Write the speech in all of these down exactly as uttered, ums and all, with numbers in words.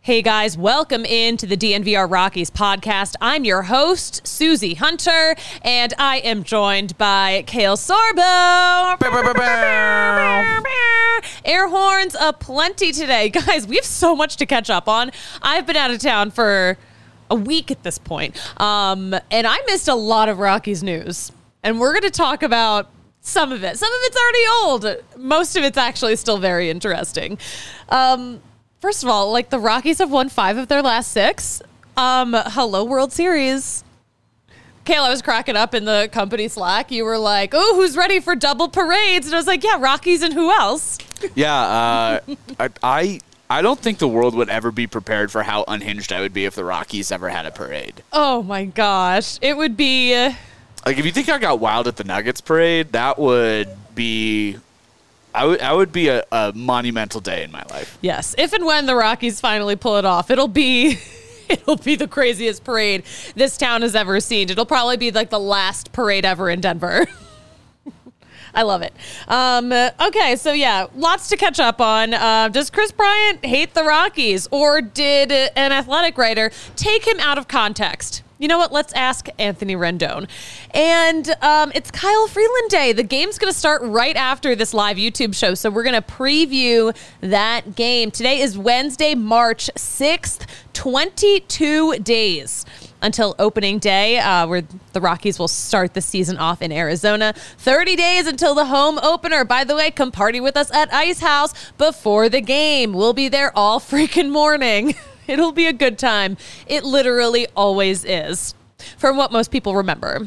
Hey guys, welcome into the D N V R Rockies podcast. I'm your host, Susie Hunter, and I am joined by Kale Sorbo. Air horns aplenty today. Guys, we have so much to catch up on. I've been out of town for a week at this point, um, and I missed a lot of Rockies news. And we're going to talk about some of it. Some of it's already old. Most of it's actually still very interesting. Um... First of all, like the Rockies have won five of their last six. Um, hello, World Series. Kayla, I was cracking up in the company Slack. You were like, oh, who's ready for double parades? And I was like, yeah, Rockies and who else? Yeah, uh, I, I I don't think the world would ever be prepared for how unhinged I would be if the Rockies ever had a parade. Oh, my gosh. It would be... Uh, like, if you think I got wild at the Nuggets parade, that would be... I would I would be a, a monumental day in my life. Yes. If and when the Rockies finally pull it off, it'll be it'll be the craziest parade this town has ever seen. It'll probably be like the last parade ever in Denver. I love it. Um, okay, so yeah, lots to catch up on. Uh, does Chris Bryant hate the Rockies, or did an Athletic writer take him out of context? You know what? Let's ask Anthony Rendon. And um, it's Kyle Freeland Day. The game's going to start right after this live YouTube show, so we're going to preview that game. Today is Wednesday, March sixth, twenty-two days until opening day, uh, where the Rockies will start the season off in Arizona. thirty days until the home opener. By the way, come party with us at Ice House before the game. We'll be there all freaking morning. It'll be a good time. It literally always is, from what most people remember.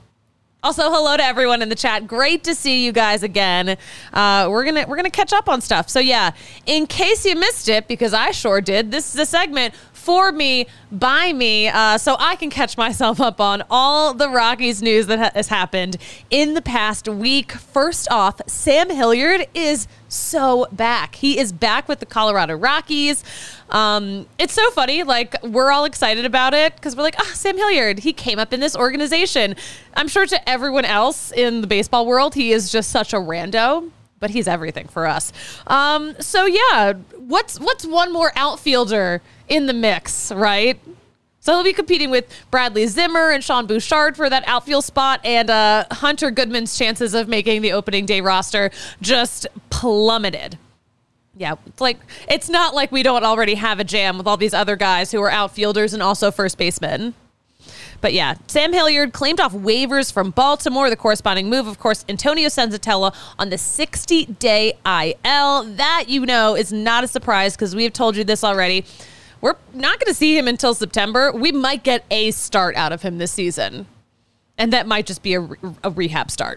Also, hello to everyone in the chat. Great to see you guys again. Uh, we're gonna we're gonna catch up on stuff. So yeah, in case you missed it, because I sure did, this is a segment for me, by me, uh, so I can catch myself up on all the Rockies news that ha- has happened in the past week. First off, Sam Hilliard is so back. He is back with the Colorado Rockies. Um, it's so funny. Like, we're all excited about it because we're like, ah, oh, Sam Hilliard, he came up in this organization. I'm sure to everyone else in the baseball world, he is just such a rando, but he's everything for us. Um, so yeah, what's what's one more outfielder in the mix, right? So he'll be competing with Bradley Zimmer and Sean Bouchard for that outfield spot, and uh, Hunter Goodman's chances of making the opening day roster just plummeted. Yeah, it's like it's not like we don't already have a jam with all these other guys who are outfielders and also first basemen. But yeah, Sam Hilliard claimed off waivers from Baltimore. The corresponding move, of course, Antonio Senzatella on the sixty-day I L. That, you know, is not a surprise because we have told you this already. We're not going to see him until September. We might get a start out of him this season. And that might just be a, a rehab start.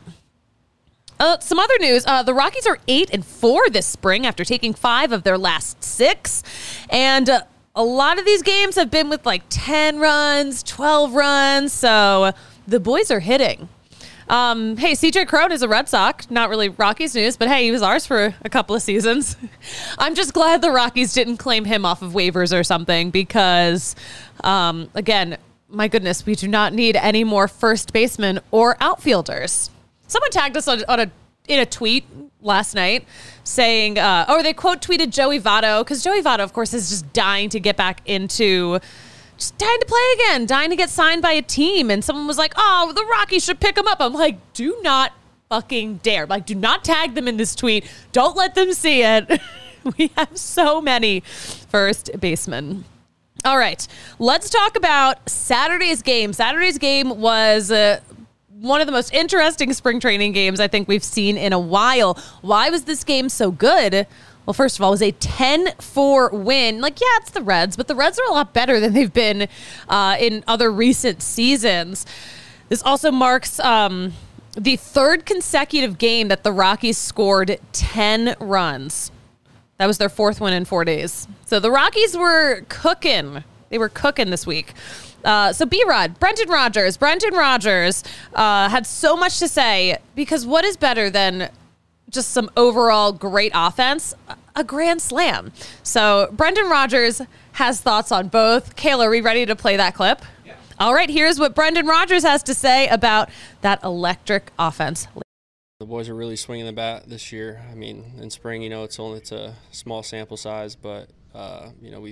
Uh, some other news. Uh, the Rockies are eight and four this spring after taking five of their last six. And uh, a lot of these games have been with like ten runs, twelve runs. So the boys are hitting. Um, hey, C J Cron is a Red Sox. Not really Rockies news, but hey, he was ours for a couple of seasons. I'm just glad the Rockies didn't claim him off of waivers or something because, um, again, my goodness, we do not need any more first basemen or outfielders. Someone tagged us on, on a in a tweet last night saying, uh, or they quote tweeted Joey Votto, because Joey Votto, of course, is just dying to get back into... just dying to play again, dying to get signed by a team. And someone was like, oh, the Rockies should pick him up. I'm like, do not fucking dare. Like, do not tag them in this tweet. Don't let them see it. We have so many first basemen. All right, let's talk about Saturday's game. Saturday's game was uh, one of the most interesting spring training games I think we've seen in a while. Why was this game so good? Well, first of all, it was a ten four win. Like, yeah, it's the Reds, but the Reds are a lot better than they've been uh, in other recent seasons. This also marks um, the third consecutive game that the Rockies scored ten runs. That was their fourth win in four days. So the Rockies were cooking. They were cooking this week. Uh, so B-Rod, Brendan Rodgers. Brendan Rodgers uh, had so much to say because what is better than just some overall great offense, a grand slam. So Brendan Rodgers has thoughts on both. Kayla, are we ready to play that clip? Yeah. All right, here's what Brendan Rodgers has to say about that electric offense. The boys are really swinging the bat this year. I mean, in spring, you know, it's only it's a small sample size, but uh, you know, we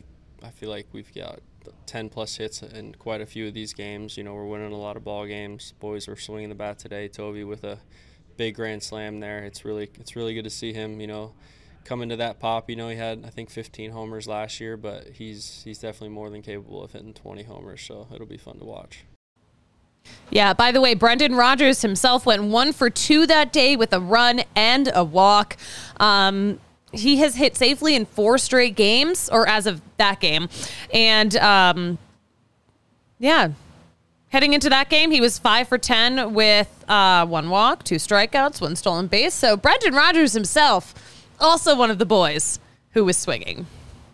I feel like we've got ten plus hits in quite a few of these games. You know, we're winning a lot of ball games. Boys are swinging the bat today. Toby with a big grand slam there. It's really it's really good to see him, you know, come into that pop. You know, he had, I think, fifteen homers last year, but he's he's definitely more than capable of hitting twenty homers, so it'll be fun to watch. Yeah, by the way, Brendan Rodgers himself went one for two that day with a run and a walk. Um, he has hit safely in four straight games, or as of that game. And, um, yeah, heading into that game, he was five for ten with uh, one walk, two strikeouts, one stolen base. So Brendan Rodgers himself, also one of the boys who was swinging.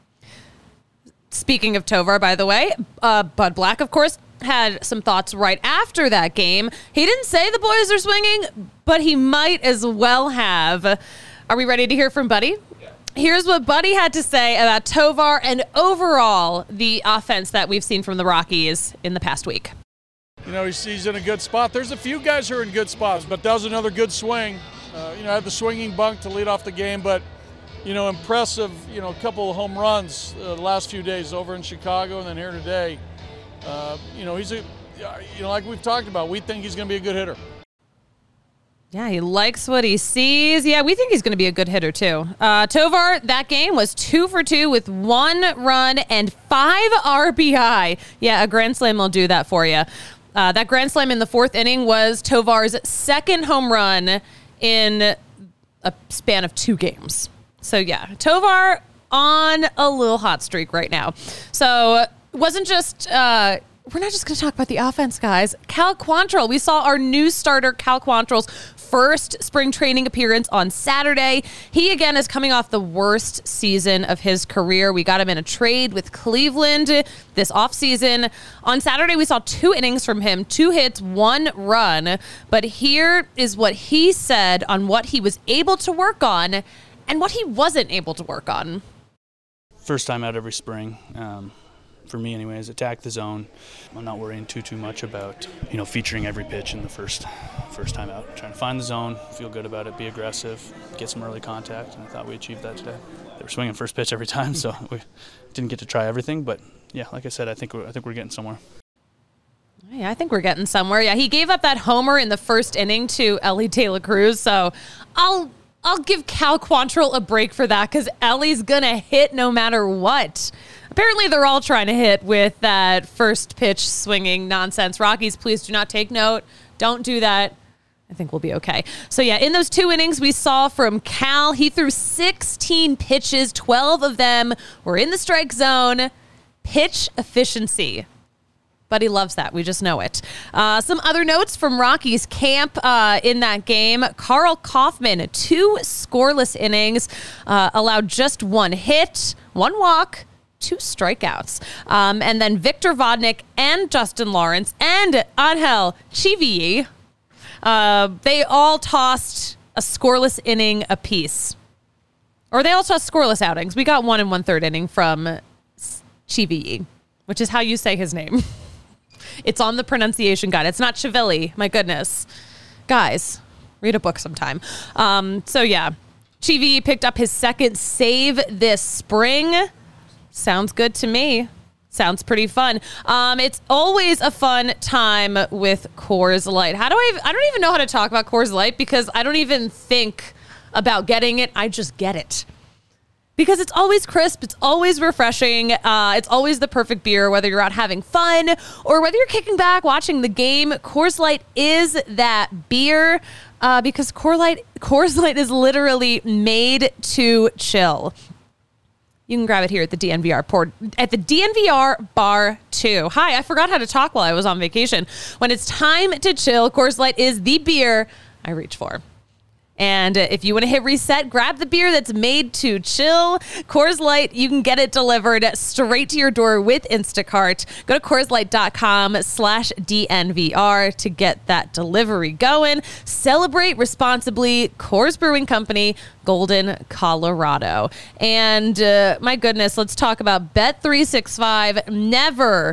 Speaking of Tovar, by the way, uh, Bud Black, of course, had some thoughts right after that game. He didn't say the boys are swinging, but he might as well have. Are we ready to hear from Buddy? Yeah. Here's what Buddy had to say about Tovar and overall the offense that we've seen from the Rockies in the past week. You know, he's, he's in a good spot. There's a few guys who are in good spots, but that was another good swing. Uh, you know, had the swinging bunk to lead off the game, but, you know, impressive, you know, a couple of home runs uh, the last few days over in Chicago and then here today. Uh, you know, he's a, you know, like we've talked about, we think he's going to be a good hitter. Yeah, he likes what he sees. Yeah, we think he's going to be a good hitter, too. Uh, Tovar, that game was two for two with one run and five R B I. Yeah, a grand slam will do that for you. Uh, that grand slam in the fourth inning was Tovar's second home run in a span of two games. So, yeah, Tovar on a little hot streak right now. So, it wasn't just, uh, we're not just going to talk about the offense, guys. Cal Quantrill, we saw our new starter, Cal Quantrill's first spring training appearance on Saturday. He, again, is coming off the worst season of his career. We got him in a trade with Cleveland this offseason. On Saturday, we saw two innings from him, two hits, one run. But here is what he said on what he was able to work on and what he wasn't able to work on. First time out every spring. Um, for me anyways, attack the zone. I'm not worrying too, too much about, you know, featuring every pitch in the first first time out. Trying to find the zone, feel good about it, be aggressive, get some early contact, and I thought we achieved that today. They were swinging first pitch every time, so we didn't get to try everything, but yeah, like I said, I think we're, I think we're getting somewhere. Yeah, I think we're getting somewhere. Yeah, he gave up that homer in the first inning to Elly De La Cruz, so I'll I'll give Cal Quantrill a break for that because Ellie's going to hit no matter what. Apparently, they're all trying to hit with that first pitch swinging nonsense. Rockies, please do not take note. Don't do that. I think we'll be okay. So, yeah, in those two innings we saw from Cal, he threw sixteen pitches. twelve of them were in the strike zone. Pitch efficiency. But he loves that. We just know it. Uh, some other notes from Rockies camp uh, in that game. Karl Kauffmann, two scoreless innings, uh, allowed just one hit, one walk, two strikeouts. Um, and then Victor Vodnik and Justin Lawrence and Angel Chivilli, uh, they all tossed a scoreless inning apiece. Or they all tossed scoreless outings. We got one and one third inning from Chivilli, which is how you say his name. It's on the pronunciation guide. It's not Chivilli. My goodness. Guys, read a book sometime. Um, so, yeah. Chivilli picked up his second save this spring. Sounds good to me. Sounds pretty fun. Um, it's always a fun time with Coors Light. How do I... I don't even know how to talk about Coors Light because I don't even think about getting it. I just get it. Because it's always crisp, it's always refreshing, uh, it's always the perfect beer, whether you're out having fun or whether you're kicking back watching the game. Coors Light is that beer uh, because Coors Light, Coors Light is literally made to chill. You can grab it here at the D N V R port, at the D N V R bar too. Hi, I forgot how to talk while I was on vacation. When it's time to chill, Coors Light is the beer I reach for. And if you want to hit reset, grab the beer that's made to chill. Coors Light, you can get it delivered straight to your door with Instacart. Go to CoorsLight.com slash DNVR to get that delivery going. Celebrate responsibly. Coors Brewing Company, Golden, Colorado. And uh, my goodness, let's talk about Bet three sixty-five. Never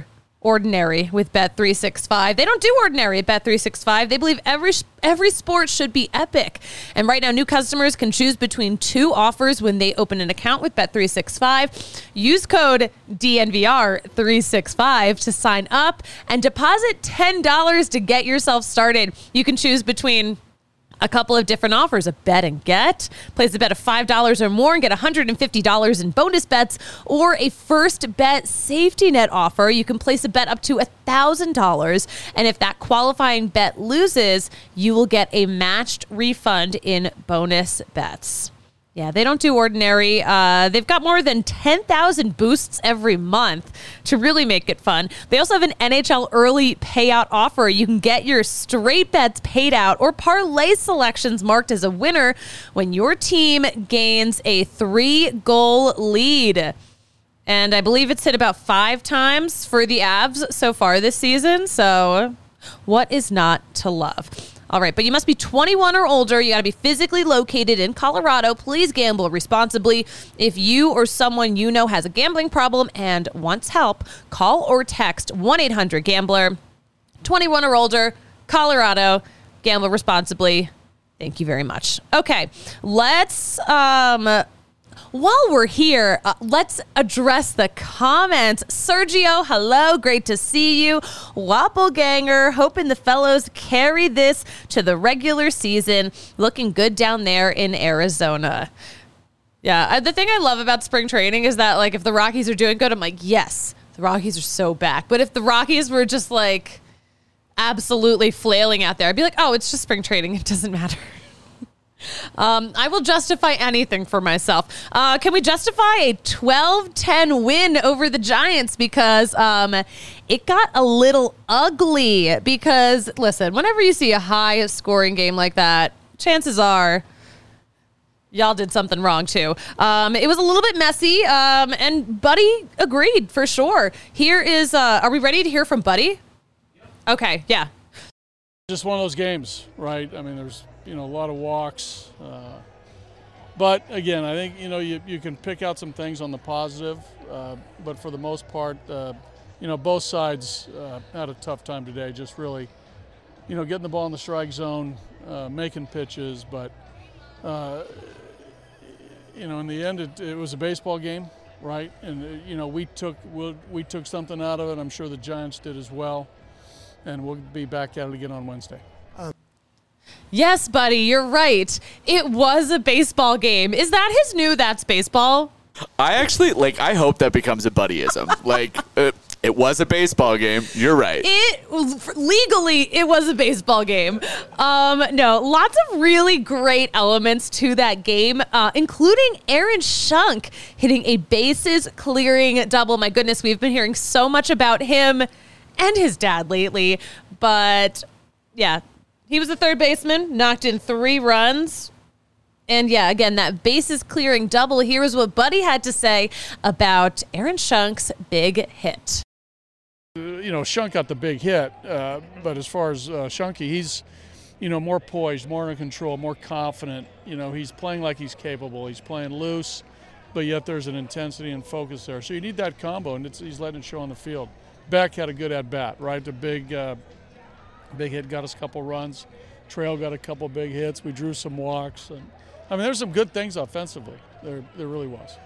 ordinary with Bet three sixty-five. They don't do ordinary at Bet three sixty-five. They believe every every sport should be epic. And right now, new customers can choose between two offers when they open an account with Bet three sixty-five. Use code D N V R three sixty-five to sign up and deposit ten dollars to get yourself started. You can choose between a couple of different offers, a bet and get. Place a bet of five dollars or more and get one hundred fifty dollars in bonus bets, or a first bet safety net offer. You can place a bet up to one thousand dollars, and if that qualifying bet loses, you will get a matched refund in bonus bets. Yeah, they don't do ordinary. Uh, they've got more than ten thousand boosts every month to really make it fun. They also have an N H L early payout offer. You can get your straight bets paid out or parlay selections marked as a winner when your team gains a three-goal lead. And I believe it's hit about five times for the Avs so far this season. So what is not to love? All right, but you must be twenty-one or older. You got to be physically located in Colorado. Please gamble responsibly. If you or someone you know has a gambling problem and wants help, call or text one eight hundred gambler. twenty-one or older, Colorado. Gamble responsibly. Thank you very much. Okay, let's... Um, While we're here, uh, let's address the comments. Sergio, hello. Great to see you. Wappelganger, hoping the fellows carry this to the regular season. Looking good down there in Arizona. Yeah, uh, the thing I love about spring training is that, like, if the Rockies are doing good, I'm like, yes, the Rockies are so back. But if the Rockies were just, like, absolutely flailing out there, I'd be like, oh, it's just spring training. It doesn't matter. Um, I will justify anything for myself. Uh, can we justify a twelve ten win over the Giants? Because um, it got a little ugly. Because, listen, whenever you see a high scoring game like that, chances are y'all did something wrong too. Um, it was a little bit messy, um, and Buddy agreed for sure. Here is, uh, are we ready to hear from Buddy? Okay, yeah. Just one of those games, right? I mean, there's, you know, a lot of walks. Uh, but, again, I think, you know, you, you can pick out some things on the positive. Uh, but for the most part, uh, you know, both sides uh, had a tough time today, just really, you know, getting the ball in the strike zone, uh, making pitches. But, uh, you know, in the end, it, it was a baseball game, right? And, uh, you know, we took, we, we took something out of it. I'm sure the Giants did as well. And we'll be back at it again on Wednesday. Yes, Buddy, you're right. It was a baseball game. Is that his new That's Baseball? I actually, like, I hope that becomes a buddyism. like, uh, it was a baseball game. You're right. It legally, it was a baseball game. Um, no, lots of really great elements to that game, uh, including Aaron Schunk hitting a bases clearing double. My goodness, we've been hearing so much about him and his dad lately. But, yeah. He was a third baseman, knocked in three runs. And yeah, again, that bases clearing double. Here's what Buddy had to say about Aaron Shunk's big hit. You know, Schunk got the big hit, uh, but as far as uh, Shunky, he's, you know, more poised, more in control, more confident. You know, he's playing like he's capable. He's playing loose, but yet there's an intensity and focus there. So you need that combo, and it's, he's letting it show on the field. Beck had a good at-bat, right? The big... Uh, Big hit got us a couple runs. Trail got a couple big hits. We drew some walks. And I mean, there's some good things offensively. There, there really was.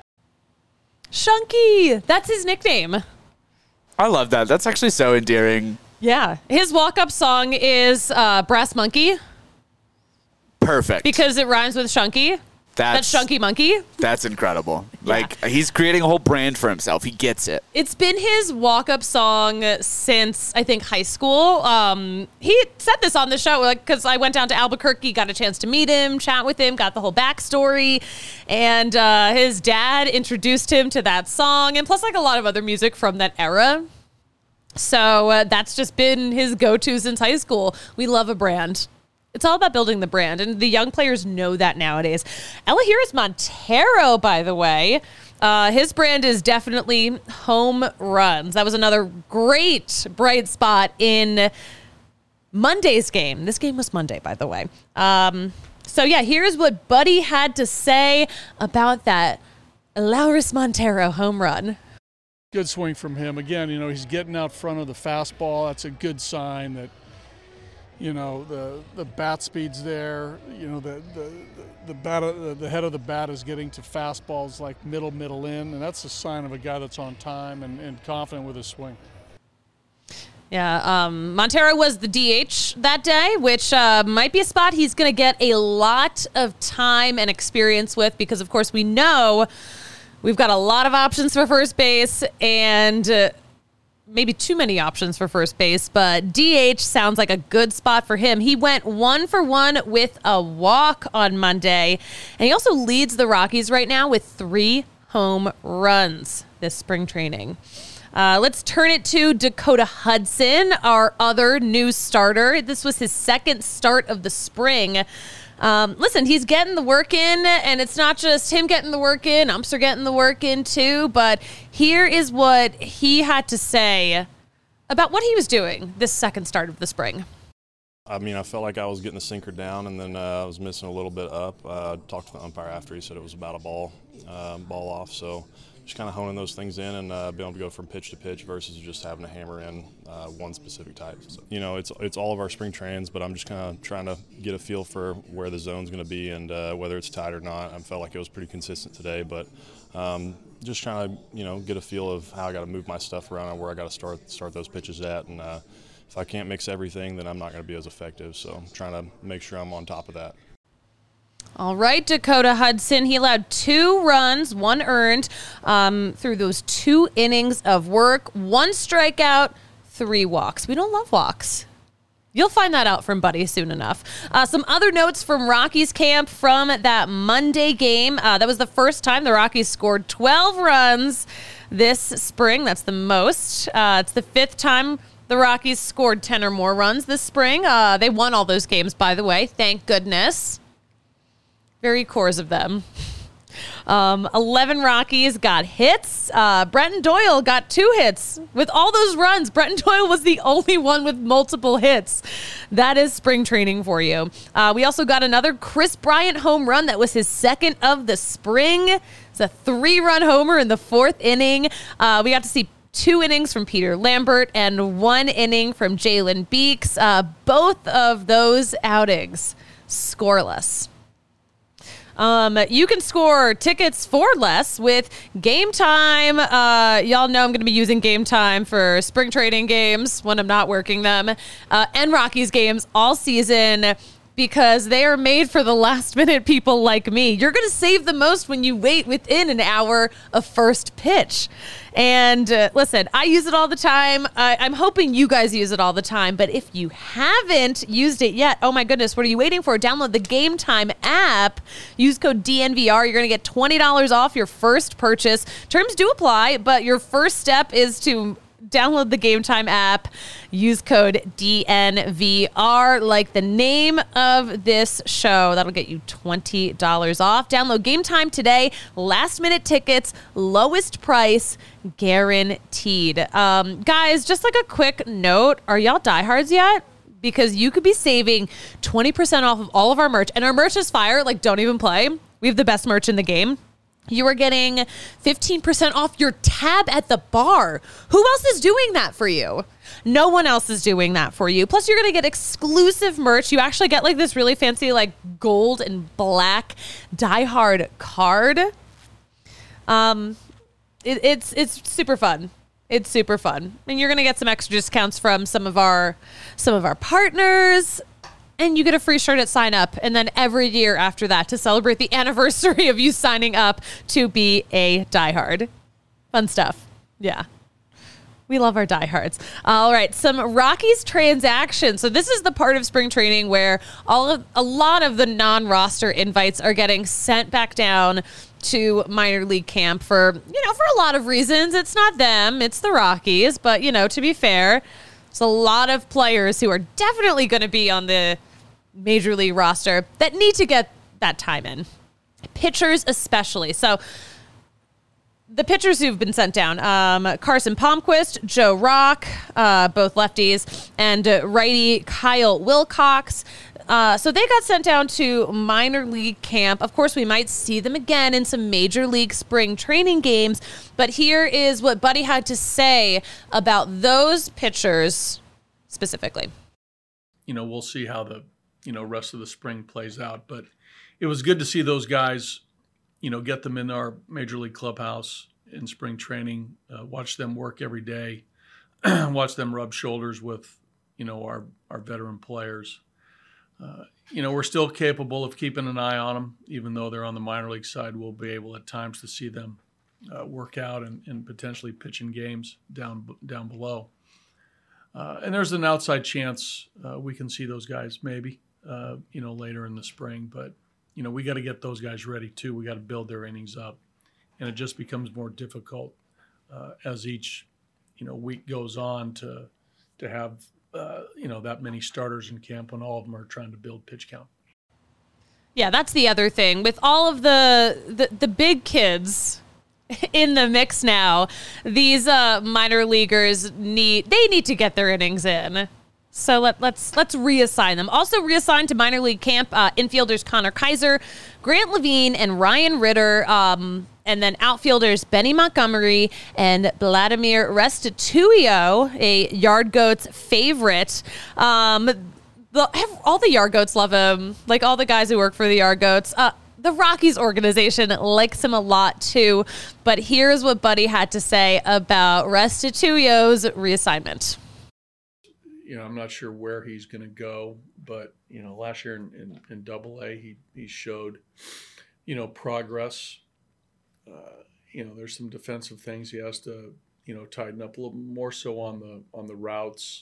Shunky, that's his nickname. I love that. That's actually so endearing. Yeah. His walk-up song is uh, Brass Monkey. Perfect. Because it rhymes with Shunky. That's, that's Shunky Monkey. That's incredible. Yeah. Like, he's creating a whole brand for himself. He gets it. It's been his walk-up song since, I think, high school. Um, he said this on the show because like, I went down to Albuquerque, got a chance to meet him, chat with him, got the whole backstory. And uh, his dad introduced him to that song, and plus like a lot of other music from that era. So uh, that's just been his go-to since high school. We love a brand. It's all about building the brand, and the young players know that nowadays. Elahiris Montero, by the way, uh, his brand is definitely home runs. That was another great bright spot in Monday's game. This game was Monday, by the way. Um, so, yeah, here's what Buddy had to say about that Elahiris Montero home run. Good swing from him. Again, you know, he's getting out front of the fastball. That's a good sign that, you know, the the bat speed's there. You know, the the the bat the, the head of the bat is getting to fastballs like middle middle in, and that's a sign of a guy that's on time and, and confident with his swing. Yeah, um, Montero was the D H that day, which uh, might be a spot he's going to get a lot of time and experience with because, of course, we know we've got a lot of options for first base and uh, maybe too many options for first base, but D H sounds like a good spot for him. He went one for one with a walk on Monday, and he also leads the Rockies right now with three home runs this spring training. Uh, let's turn it to Dakota Hudson, our other new starter. This was his second start of the spring. Um, listen, he's getting the work in, and it's not just him getting the work in. Umps are getting the work in, too. But here is what he had to say about what he was doing this second start of the spring. I mean, I felt like I was getting the sinker down, and then uh, I was missing a little bit up. Uh, I talked to the umpire after. He said it was about a ball, uh, ball off. So just kind of honing those things in and uh, being able to go from pitch to pitch versus just having to hammer in uh, one specific type. So, you know, it's it's all of our spring trains, but I'm just kind of trying to get a feel for where the zone's going to be and uh, whether it's tight or not. I felt like it was pretty consistent today, but um, just trying to, you know, get a feel of how I got to move my stuff around and where I got to start start those pitches at. And uh, if I can't mix everything, then I'm not going to be as effective. So I'm trying to make sure I'm on top of that. All right, Dakota Hudson. He allowed two runs, one earned um, through those two innings of work, one strikeout, three walks. We don't love walks. You'll find that out from Buddy soon enough. Uh, some other notes from Rockies camp from that Monday game. Uh, that was the first time the Rockies scored twelve runs this spring. That's the most. Uh, it's the fifth time the Rockies scored ten or more runs this spring. Uh, they won all those games, by the way. Thank goodness. Very cores of them. Um, eleven Rockies got hits. Uh, Brenton Doyle got two hits. With all those runs, Brenton Doyle was the only one with multiple hits. That is spring training for you. Uh, we also got another Chris Bryant home run. That was his second of the spring. It's a three-run homer in the fourth inning. Uh, we got to see two innings from Peter Lambert and one inning from Jalen Beeks. Uh, both of those outings scoreless. Um, you can score tickets for less with Game Time. Uh, y'all know I'm going to be using Game Time for spring training games when I'm not working them, uh, and Rockies games all season because they are made for the last minute people like me. You're going to save the most when you wait within an hour of first pitch. And uh, listen, I use it all the time. I, I'm hoping you guys use it all the time. But if you haven't used it yet, oh my goodness, what are you waiting for? Download the Game Time app. Use code D N V R. You're going to get twenty dollars off your first purchase. Terms do apply, but your first step is to download the Game Time app. Use code D N V R, like the name of this show. That'll get you twenty dollars off. Download Game Time today. Last minute tickets, lowest price, guaranteed. Um, guys, just like a quick note, are y'all diehards yet? Because you could be saving twenty percent off of all of our merch. And our merch is fire. Like, don't even play. We have the best merch in the game. You are getting fifteen percent off your tab at the bar. Who else is doing that for you? No one else is doing that for you. Plus, you're going to get exclusive merch. You actually get like this really fancy, like gold and black Die Hard card. Um, it, it's it's super fun. It's super fun, and you're going to get some extra discounts from some of our some of our partners. And you get a free shirt at sign up. And then every year after that to celebrate the anniversary of you signing up to be a diehard. Fun stuff. Yeah. We love our diehards. All right. Some Rockies transactions. So this is the part of spring training where all of a lot of the non-roster invites are getting sent back down to minor league camp for, you know, for a lot of reasons. It's not them. It's the Rockies. But, you know, to be fair, there's a lot of players who are definitely going to be on the major league roster that need to get that time in. Pitchers especially. So the pitchers who've been sent down, um, Carson Palmquist, Joe Rock, uh, both lefties, and uh, righty Kyle Wilcox. Uh, so they got sent down to minor league camp. Of course, we might see them again in some major league spring training games. But here is what Buddy had to say about those pitchers specifically. You know, we'll see how the, you know, rest of the spring plays out. But it was good to see those guys, you know, get them in our major league clubhouse in spring training, uh, watch them work every day, watch them rub shoulders with, you know, our, our veteran players. Uh, you know, we're still capable of keeping an eye on them, even though they're on the minor league side. We'll be able at times to see them uh, work out and, and potentially pitch in games down down below. Uh, and there's an outside chance uh, we can see those guys maybe, uh, you know, later in the spring. But, you know, we got to get those guys ready too. We got to build their innings up. And it just becomes more difficult uh, as each, you know, week goes on to to have – Uh, you know, that many starters in camp when all of them are trying to build pitch count. Yeah, that's the other thing. With all of the the, the big kids in the mix now, these uh, minor leaguers need they need to get their innings in. So let, let's let's reassign them. Also reassigned to minor league camp, uh, infielders Connor Kaiser, Grant Levine, and Ryan Ritter. Um, and then outfielders Benny Montgomery and Vladimir Restituyo, a Yard Goats favorite. Um, the, all the Yard Goats love him, like all the guys who work for the Yard Goats. Uh, the Rockies organization likes him a lot too. But here's what Buddy had to say about Restituyo's reassignment. You know, I'm not sure where he's going to go, but, you know, last year in, in, in Double A, he, he showed, you know, progress. Uh, you know, there's some defensive things he has to, you know, tighten up a little more so on the on the routes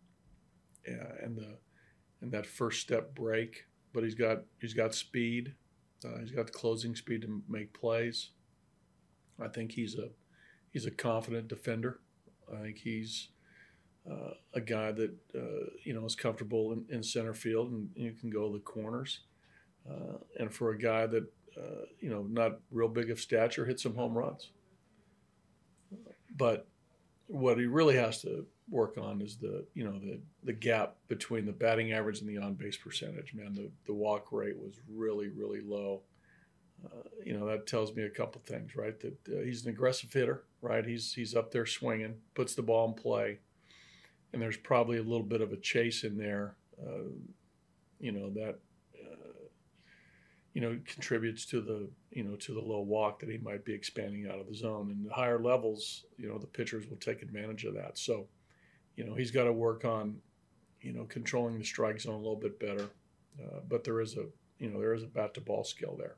uh, and the and that first step break. But he's got he's got speed. Uh, he's got the closing speed to make plays. I think he's a he's a confident defender. I think he's Uh, a guy that, uh, you know, is comfortable in, in center field and you can go the corners. Uh, and for a guy that, uh, you know, not real big of stature, hit some home runs. But what he really has to work on is the, you know, the, the gap between the batting average and the on-base percentage. Man, the, the walk rate was really, really low. Uh, you know, that tells me a couple things, right? That uh, he's an aggressive hitter, right? He's, he's up there swinging, puts the ball in play. And there's probably a little bit of a chase in there, uh, you know, that, uh, you know, contributes to the, you know, to the low walk that he might be expanding out of the zone. And the higher levels, you know, the pitchers will take advantage of that. So, you know, he's got to work on, you know, controlling the strike zone a little bit better. Uh, but there is a, you know, there is a bat-to-ball skill there.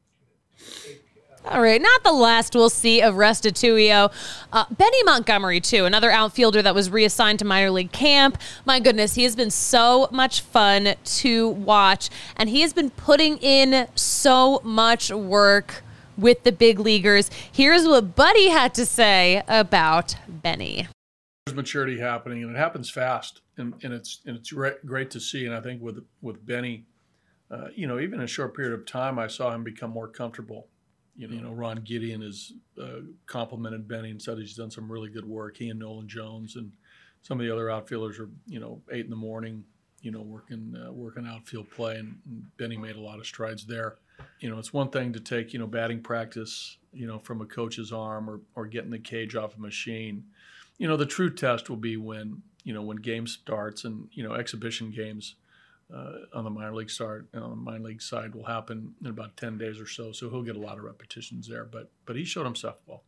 All right, not the last we'll see of Restituyo. Uh, Benny Montgomery, too, another outfielder that was reassigned to minor league camp. My goodness, he has been so much fun to watch, and he has been putting in so much work with the big leaguers. Here's what Buddy had to say about Benny. There's maturity happening, and it happens fast, and, and it's and it's great to see. And I think with with Benny, uh, you know, even in a short period of time, I saw him become more comfortable. You know, you know, Ron Gideon has uh, complimented Benny and said he's done some really good work. He and Nolan Jones and some of the other outfielders are, you know, eight in the morning, you know, working uh, working outfield play, and, and Benny made a lot of strides there. You know, it's one thing to take, you know, batting practice, you know, from a coach's arm or or getting the cage off a machine. You know, the true test will be when, you know, when game starts and, you know, exhibition games. Uh, on the minor league start, on the minor league side will happen in about ten days or so. So he'll get a lot of repetitions there, but but he showed himself well.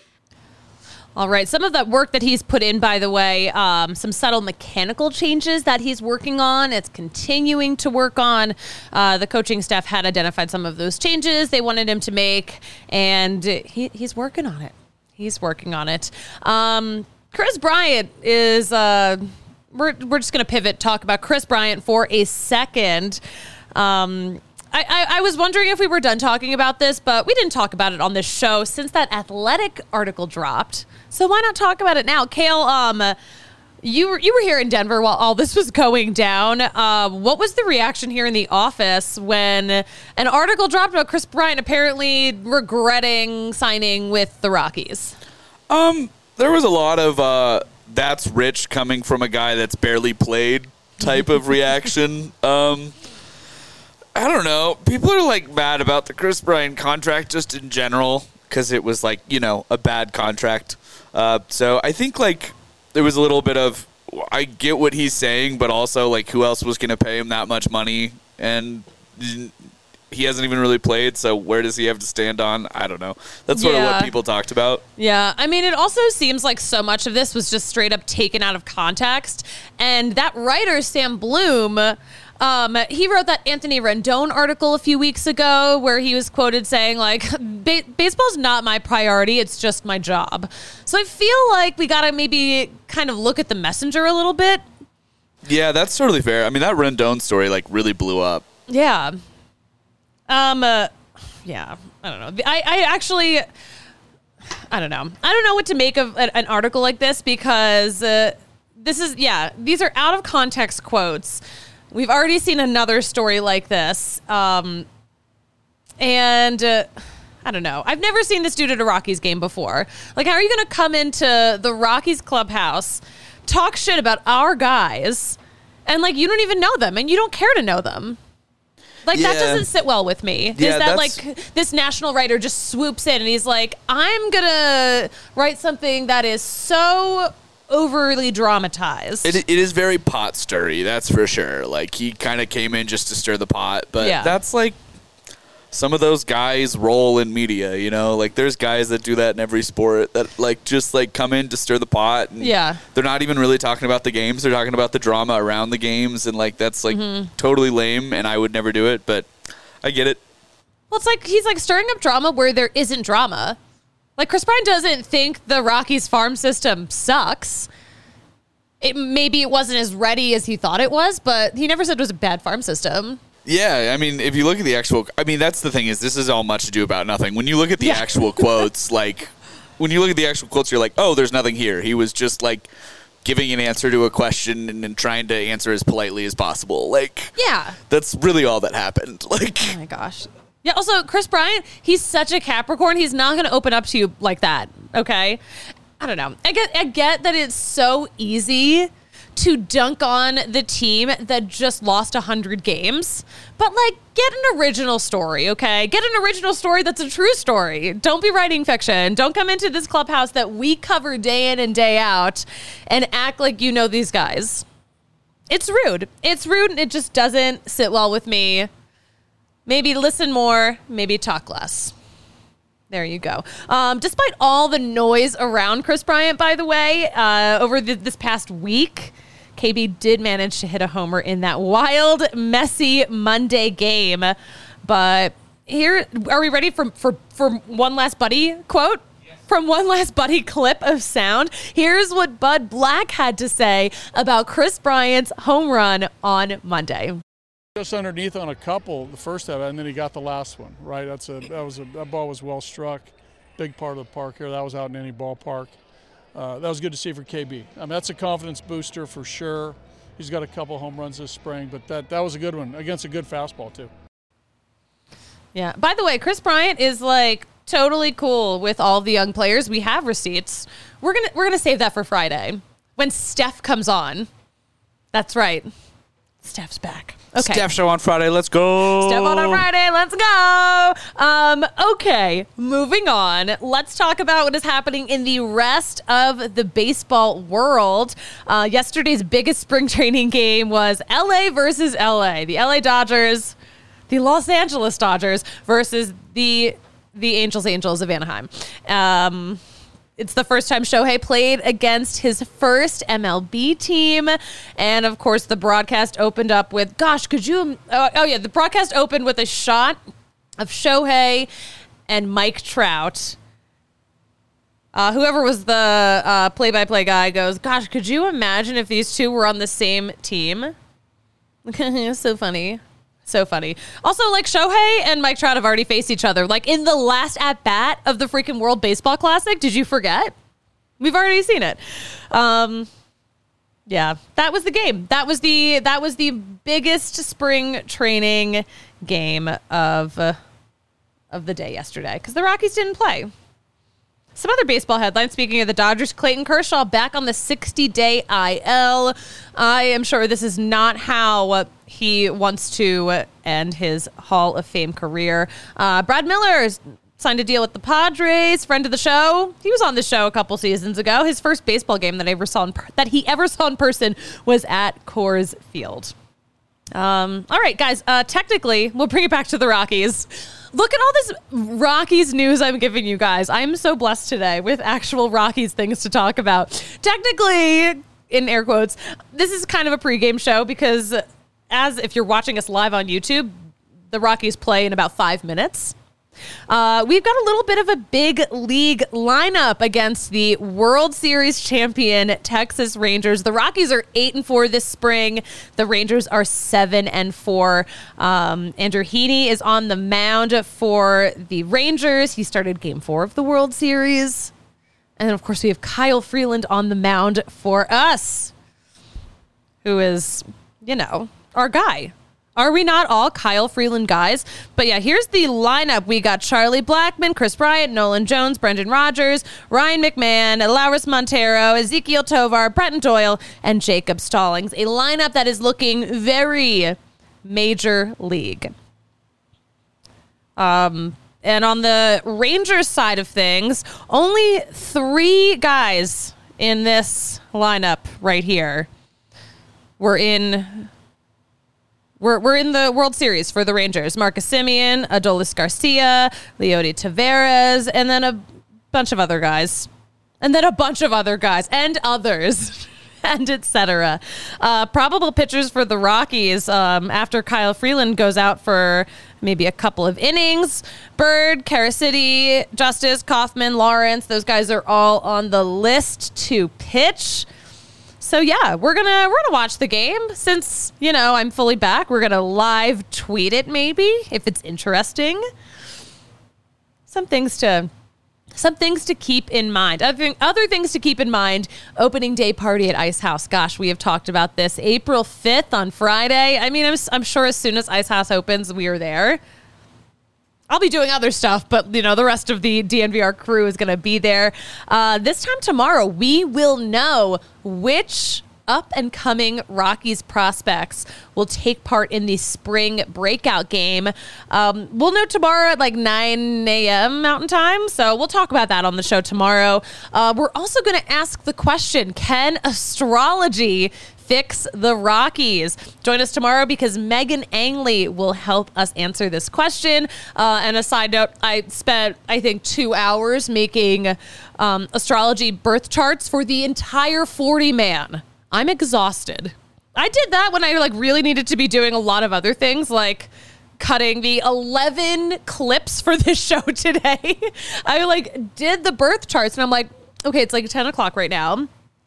All right, some of that work that he's put in, by the way, um, some subtle mechanical changes that he's working on. It's continuing to work on. Uh, the coaching staff had identified some of those changes they wanted him to make, and he, he's working on it. He's working on it. Um, Kris Bryant is... Uh, We're we're just going to pivot, talk about Kris Bryant for a second. Um, I, I, I was wondering if we were done talking about this, but we didn't talk about it on this show since that Athletic article dropped. So why not talk about it now? Kale, um, you were, you were here in Denver while all this was going down. Uh, what was the reaction here in the office when an article dropped about Kris Bryant apparently regretting signing with the Rockies? Um, there was a lot of... Uh that's rich coming from a guy that's barely played type of reaction. Um, I don't know. People are like mad about the Kris Bryant contract just in general because it was like, you know, a bad contract. Uh, so I think like there was a little bit of, I get what he's saying, but also like who else was going to pay him that much money? And he hasn't even really played, so where does he have to stand on? I don't know. That's sort Yeah. of what people talked about. Yeah, I mean, it also seems like so much of this was just straight up taken out of context. And that writer, Sam Bloom, um, he wrote that Anthony Rendon article a few weeks ago where he was quoted saying, like, ba- baseball's not my priority, it's just my job. So I feel like we got to maybe kind of look at the messenger a little bit. Yeah, that's totally fair. I mean, that Rendon story like really blew up. Yeah. Um, uh, yeah, I don't know. I, I actually, I don't know. I don't know what to make of an, an article like this because uh, this is, yeah, these are out of context quotes. We've already seen another story like this. Um, and uh, I don't know. I've never seen this dude at a Rockies game before. Like, how are you going to come into the Rockies clubhouse, talk shit about our guys, and like, you don't even know them and you don't care to know them? Like, Yeah. that doesn't sit well with me. Yeah, is that, that's- like, this national writer just swoops in and he's like, I'm going to write something that is so overly dramatized. It, it is very pot stirry, that's for sure. Like, he kind of came in just to stir the pot, but Yeah. that's like some of those guys roll in media, you know? Like, there's guys that do that in every sport that, like, just, like, come in to stir the pot. And Yeah. they're not even really talking about the games. They're talking about the drama around the games, and, like, that's, like, totally lame, and I would never do it, but I get it. Well, it's like he's, like, stirring up drama where there isn't drama. Like, Kris Bryant doesn't think the Rockies farm system sucks. It maybe it wasn't as ready as he thought it was, but he never said it was a bad farm system. Yeah, I mean, if you look at the actual, I mean, that's the thing is this is all much ado about nothing. When you look at the Yeah. actual quotes, like, when you look at the actual quotes, you're like, oh, there's nothing here. He was just, like, giving an answer to a question and, and trying to answer as politely as possible. Like, Yeah. that's really all that happened. Like, Oh my gosh. Yeah, also, Kris Bryant, he's such a Capricorn. He's not going to open up to you like that, okay? I don't know. I get, I get that it's so easy to dunk on the team that just lost one hundred games, but, like, get an original story, okay? Get an original story that's a true story. Don't be writing fiction. Don't come into this clubhouse that we cover day in and day out and act like you know these guys. It's rude. It's rude, and it just doesn't sit well with me. Maybe listen more, maybe talk less. There you go. Um, despite all the noise around Kris Bryant, by the way, uh, over the, this past week, K B did manage to hit a homer in that wild, messy Monday game. But here, are we ready for, for, for one last Buddy quote? From one last Buddy clip of sound, here's what Bud Black had to say about Kris Bryant's home run on Monday. Just underneath on a couple, the first half, and then he got the last one. Right, that's a that was a that ball was well struck, big part of the park here. That was out in any ballpark. Uh, that was good to see for K B. I mean, that's a confidence booster for sure. He's got a couple home runs this spring, but that that was a good one against a good fastball too. Yeah. By the way, Kris Bryant is like totally cool with all the young players. We have receipts. We're gonna we're gonna save that for Friday when Steph comes on. That's right. Steph's back. Okay. Steph show on Friday. Let's go. Step on a Friday. Let's go. Um, okay, moving on. Let's talk about what is happening in the rest of the baseball world. Uh, yesterday's biggest spring training game was L A versus L A. The L A Dodgers, the Los Angeles Dodgers versus the the Angels Angels of Anaheim. Um, It's the first time Shohei played against his first M L B team. And, of course, the broadcast opened up with, gosh, could you... Oh, oh, yeah, the broadcast opened with a shot of Shohei and Mike Trout. Uh, whoever was the uh, play-by-play guy goes, gosh, could you imagine if these two were on the same team? So funny. So funny. Also, like, Shohei and Mike Trout have already faced each other. Like, in the last at-bat of the freaking World Baseball Classic. Did you forget? We've already seen it. Um, yeah, that was the game. That was the that was the biggest spring training game of, uh, of the day yesterday. Because the Rockies didn't play. Some other baseball headlines. Speaking of the Dodgers, Clayton Kershaw back on the sixty-day I L. I am sure this is not how he wants to end his Hall of Fame career. Uh, Brad Miller is signed a deal with the Padres, friend of the show. He was on the show a couple seasons ago. His first baseball game that I ever saw in per- that he ever saw in person was at Coors Field. Um, all right, guys. Uh, technically, we'll bring it back to the Rockies. Look at all this Rockies news I'm giving you guys. I'm so blessed today with actual Rockies things to talk about. Technically, in air quotes, this is kind of a pregame show because as if you're watching us live on YouTube, the Rockies play in about five minutes. Uh, we've got a little bit of a big league lineup against the World Series champion Texas Rangers. The Rockies are eight and four this spring. The Rangers are seven and four. Um, Andrew Heaney is on the mound for the Rangers. He started game four of the World Series. And then, of course, we have Kyle Freeland on the mound for us, who is, you know, our guy. Are we not all Kyle Freeland guys? But yeah, here's the lineup. We got Charlie Blackmon, Chris Bryant, Nolan Jones, Brendan Rodgers, Ryan McMahon, Lauris Montero, Ezekiel Tovar, Bretton Doyle, and Jacob Stallings. A lineup that is looking very major league. Um, and on the Rangers side of things, only three guys in this lineup right here were in... We're we're in the World Series for the Rangers. Marcus Semien, Adolis Garcia, Leody Taveras, and then a bunch of other guys. And then a bunch of other guys. And others. And et cetera. Uh, probable pitchers for the Rockies um, after Kyle Freeland goes out for maybe a couple of innings. Bird, Caracity, Justice, Kaufman, Lawrence. Those guys are all on the list to pitch. So yeah, we're gonna we're gonna watch the game since, you know, I'm fully back. We're gonna live tweet it maybe if it's interesting. Some things to some things to keep in mind. Other other things to keep in mind. Opening day party at Ice House. Gosh, we have talked about this. April fifth on Friday. I mean, I'm I'm sure as soon as Ice House opens, we are there. I'll be doing other stuff, but, you know, the rest of the D N V R crew is going to be there. Uh, this time tomorrow, we will know which up-and-coming Rockies prospects will take part in the spring breakout game. Um, we'll know tomorrow at like nine a.m. Mountain Time, so we'll talk about that on the show tomorrow. Uh, we're also going to ask the question, can astrology fix the Rockies? Join us tomorrow because Megan Angley will help us answer this question. Uh, and a side note, I spent, I think, two hours making um, astrology birth charts for the entire forty man. I'm exhausted. I did that when I like really needed to be doing a lot of other things, like cutting the eleven clips for this show today. I like did the birth charts and I'm like, okay, it's like ten o'clock right now.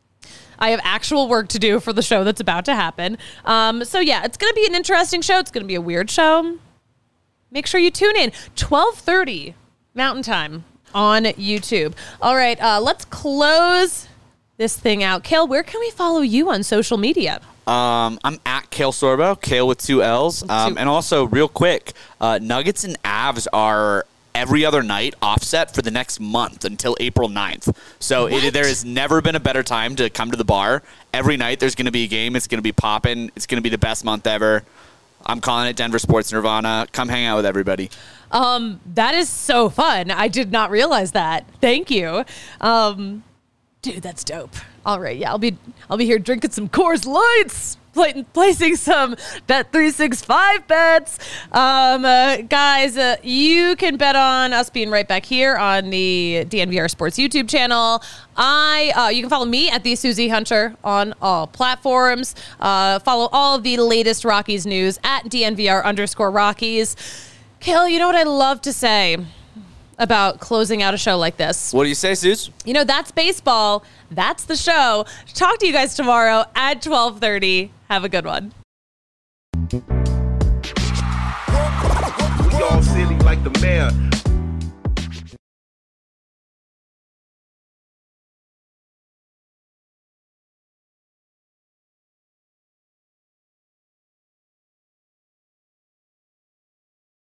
I have actual work to do for the show that's about to happen. Um, so yeah, it's going to be an interesting show. It's going to be a weird show. Make sure you tune in. twelve thirty Mountain Time on YouTube. All right, uh, let's close this thing out. Kale, where can we follow you on social media? Um, I'm at Kale Sorbo, Kale with two L's. Um, Two- and also, real quick, uh, Nuggets and Avs are every other night offset for the next month until April ninth. So it, there has never been a better time to come to the bar. Every night there's going to be a game. It's going to be popping. It's going to be the best month ever. I'm calling it Denver Sports Nirvana. Come hang out with everybody. Um, that is so fun. I did not realize that. Thank you. Um, dude, that's dope. All right. Yeah, I'll be I'll be here drinking some Coors Lights, play, placing some Bet three sixty-five bets. Um, uh, guys, uh, you can bet on us being right back here on the D N V R Sports YouTube channel. I uh, you can follow me at the Susie Hunter on all platforms. Uh, follow all of the latest Rockies news at D N V R underscore Rockies. Kale, you know what I love to say about closing out a show like this? What do you say, Suze? You know, that's baseball. That's the show. Talk to you guys tomorrow at twelve thirty. Have a good one. We all silly like the mayor.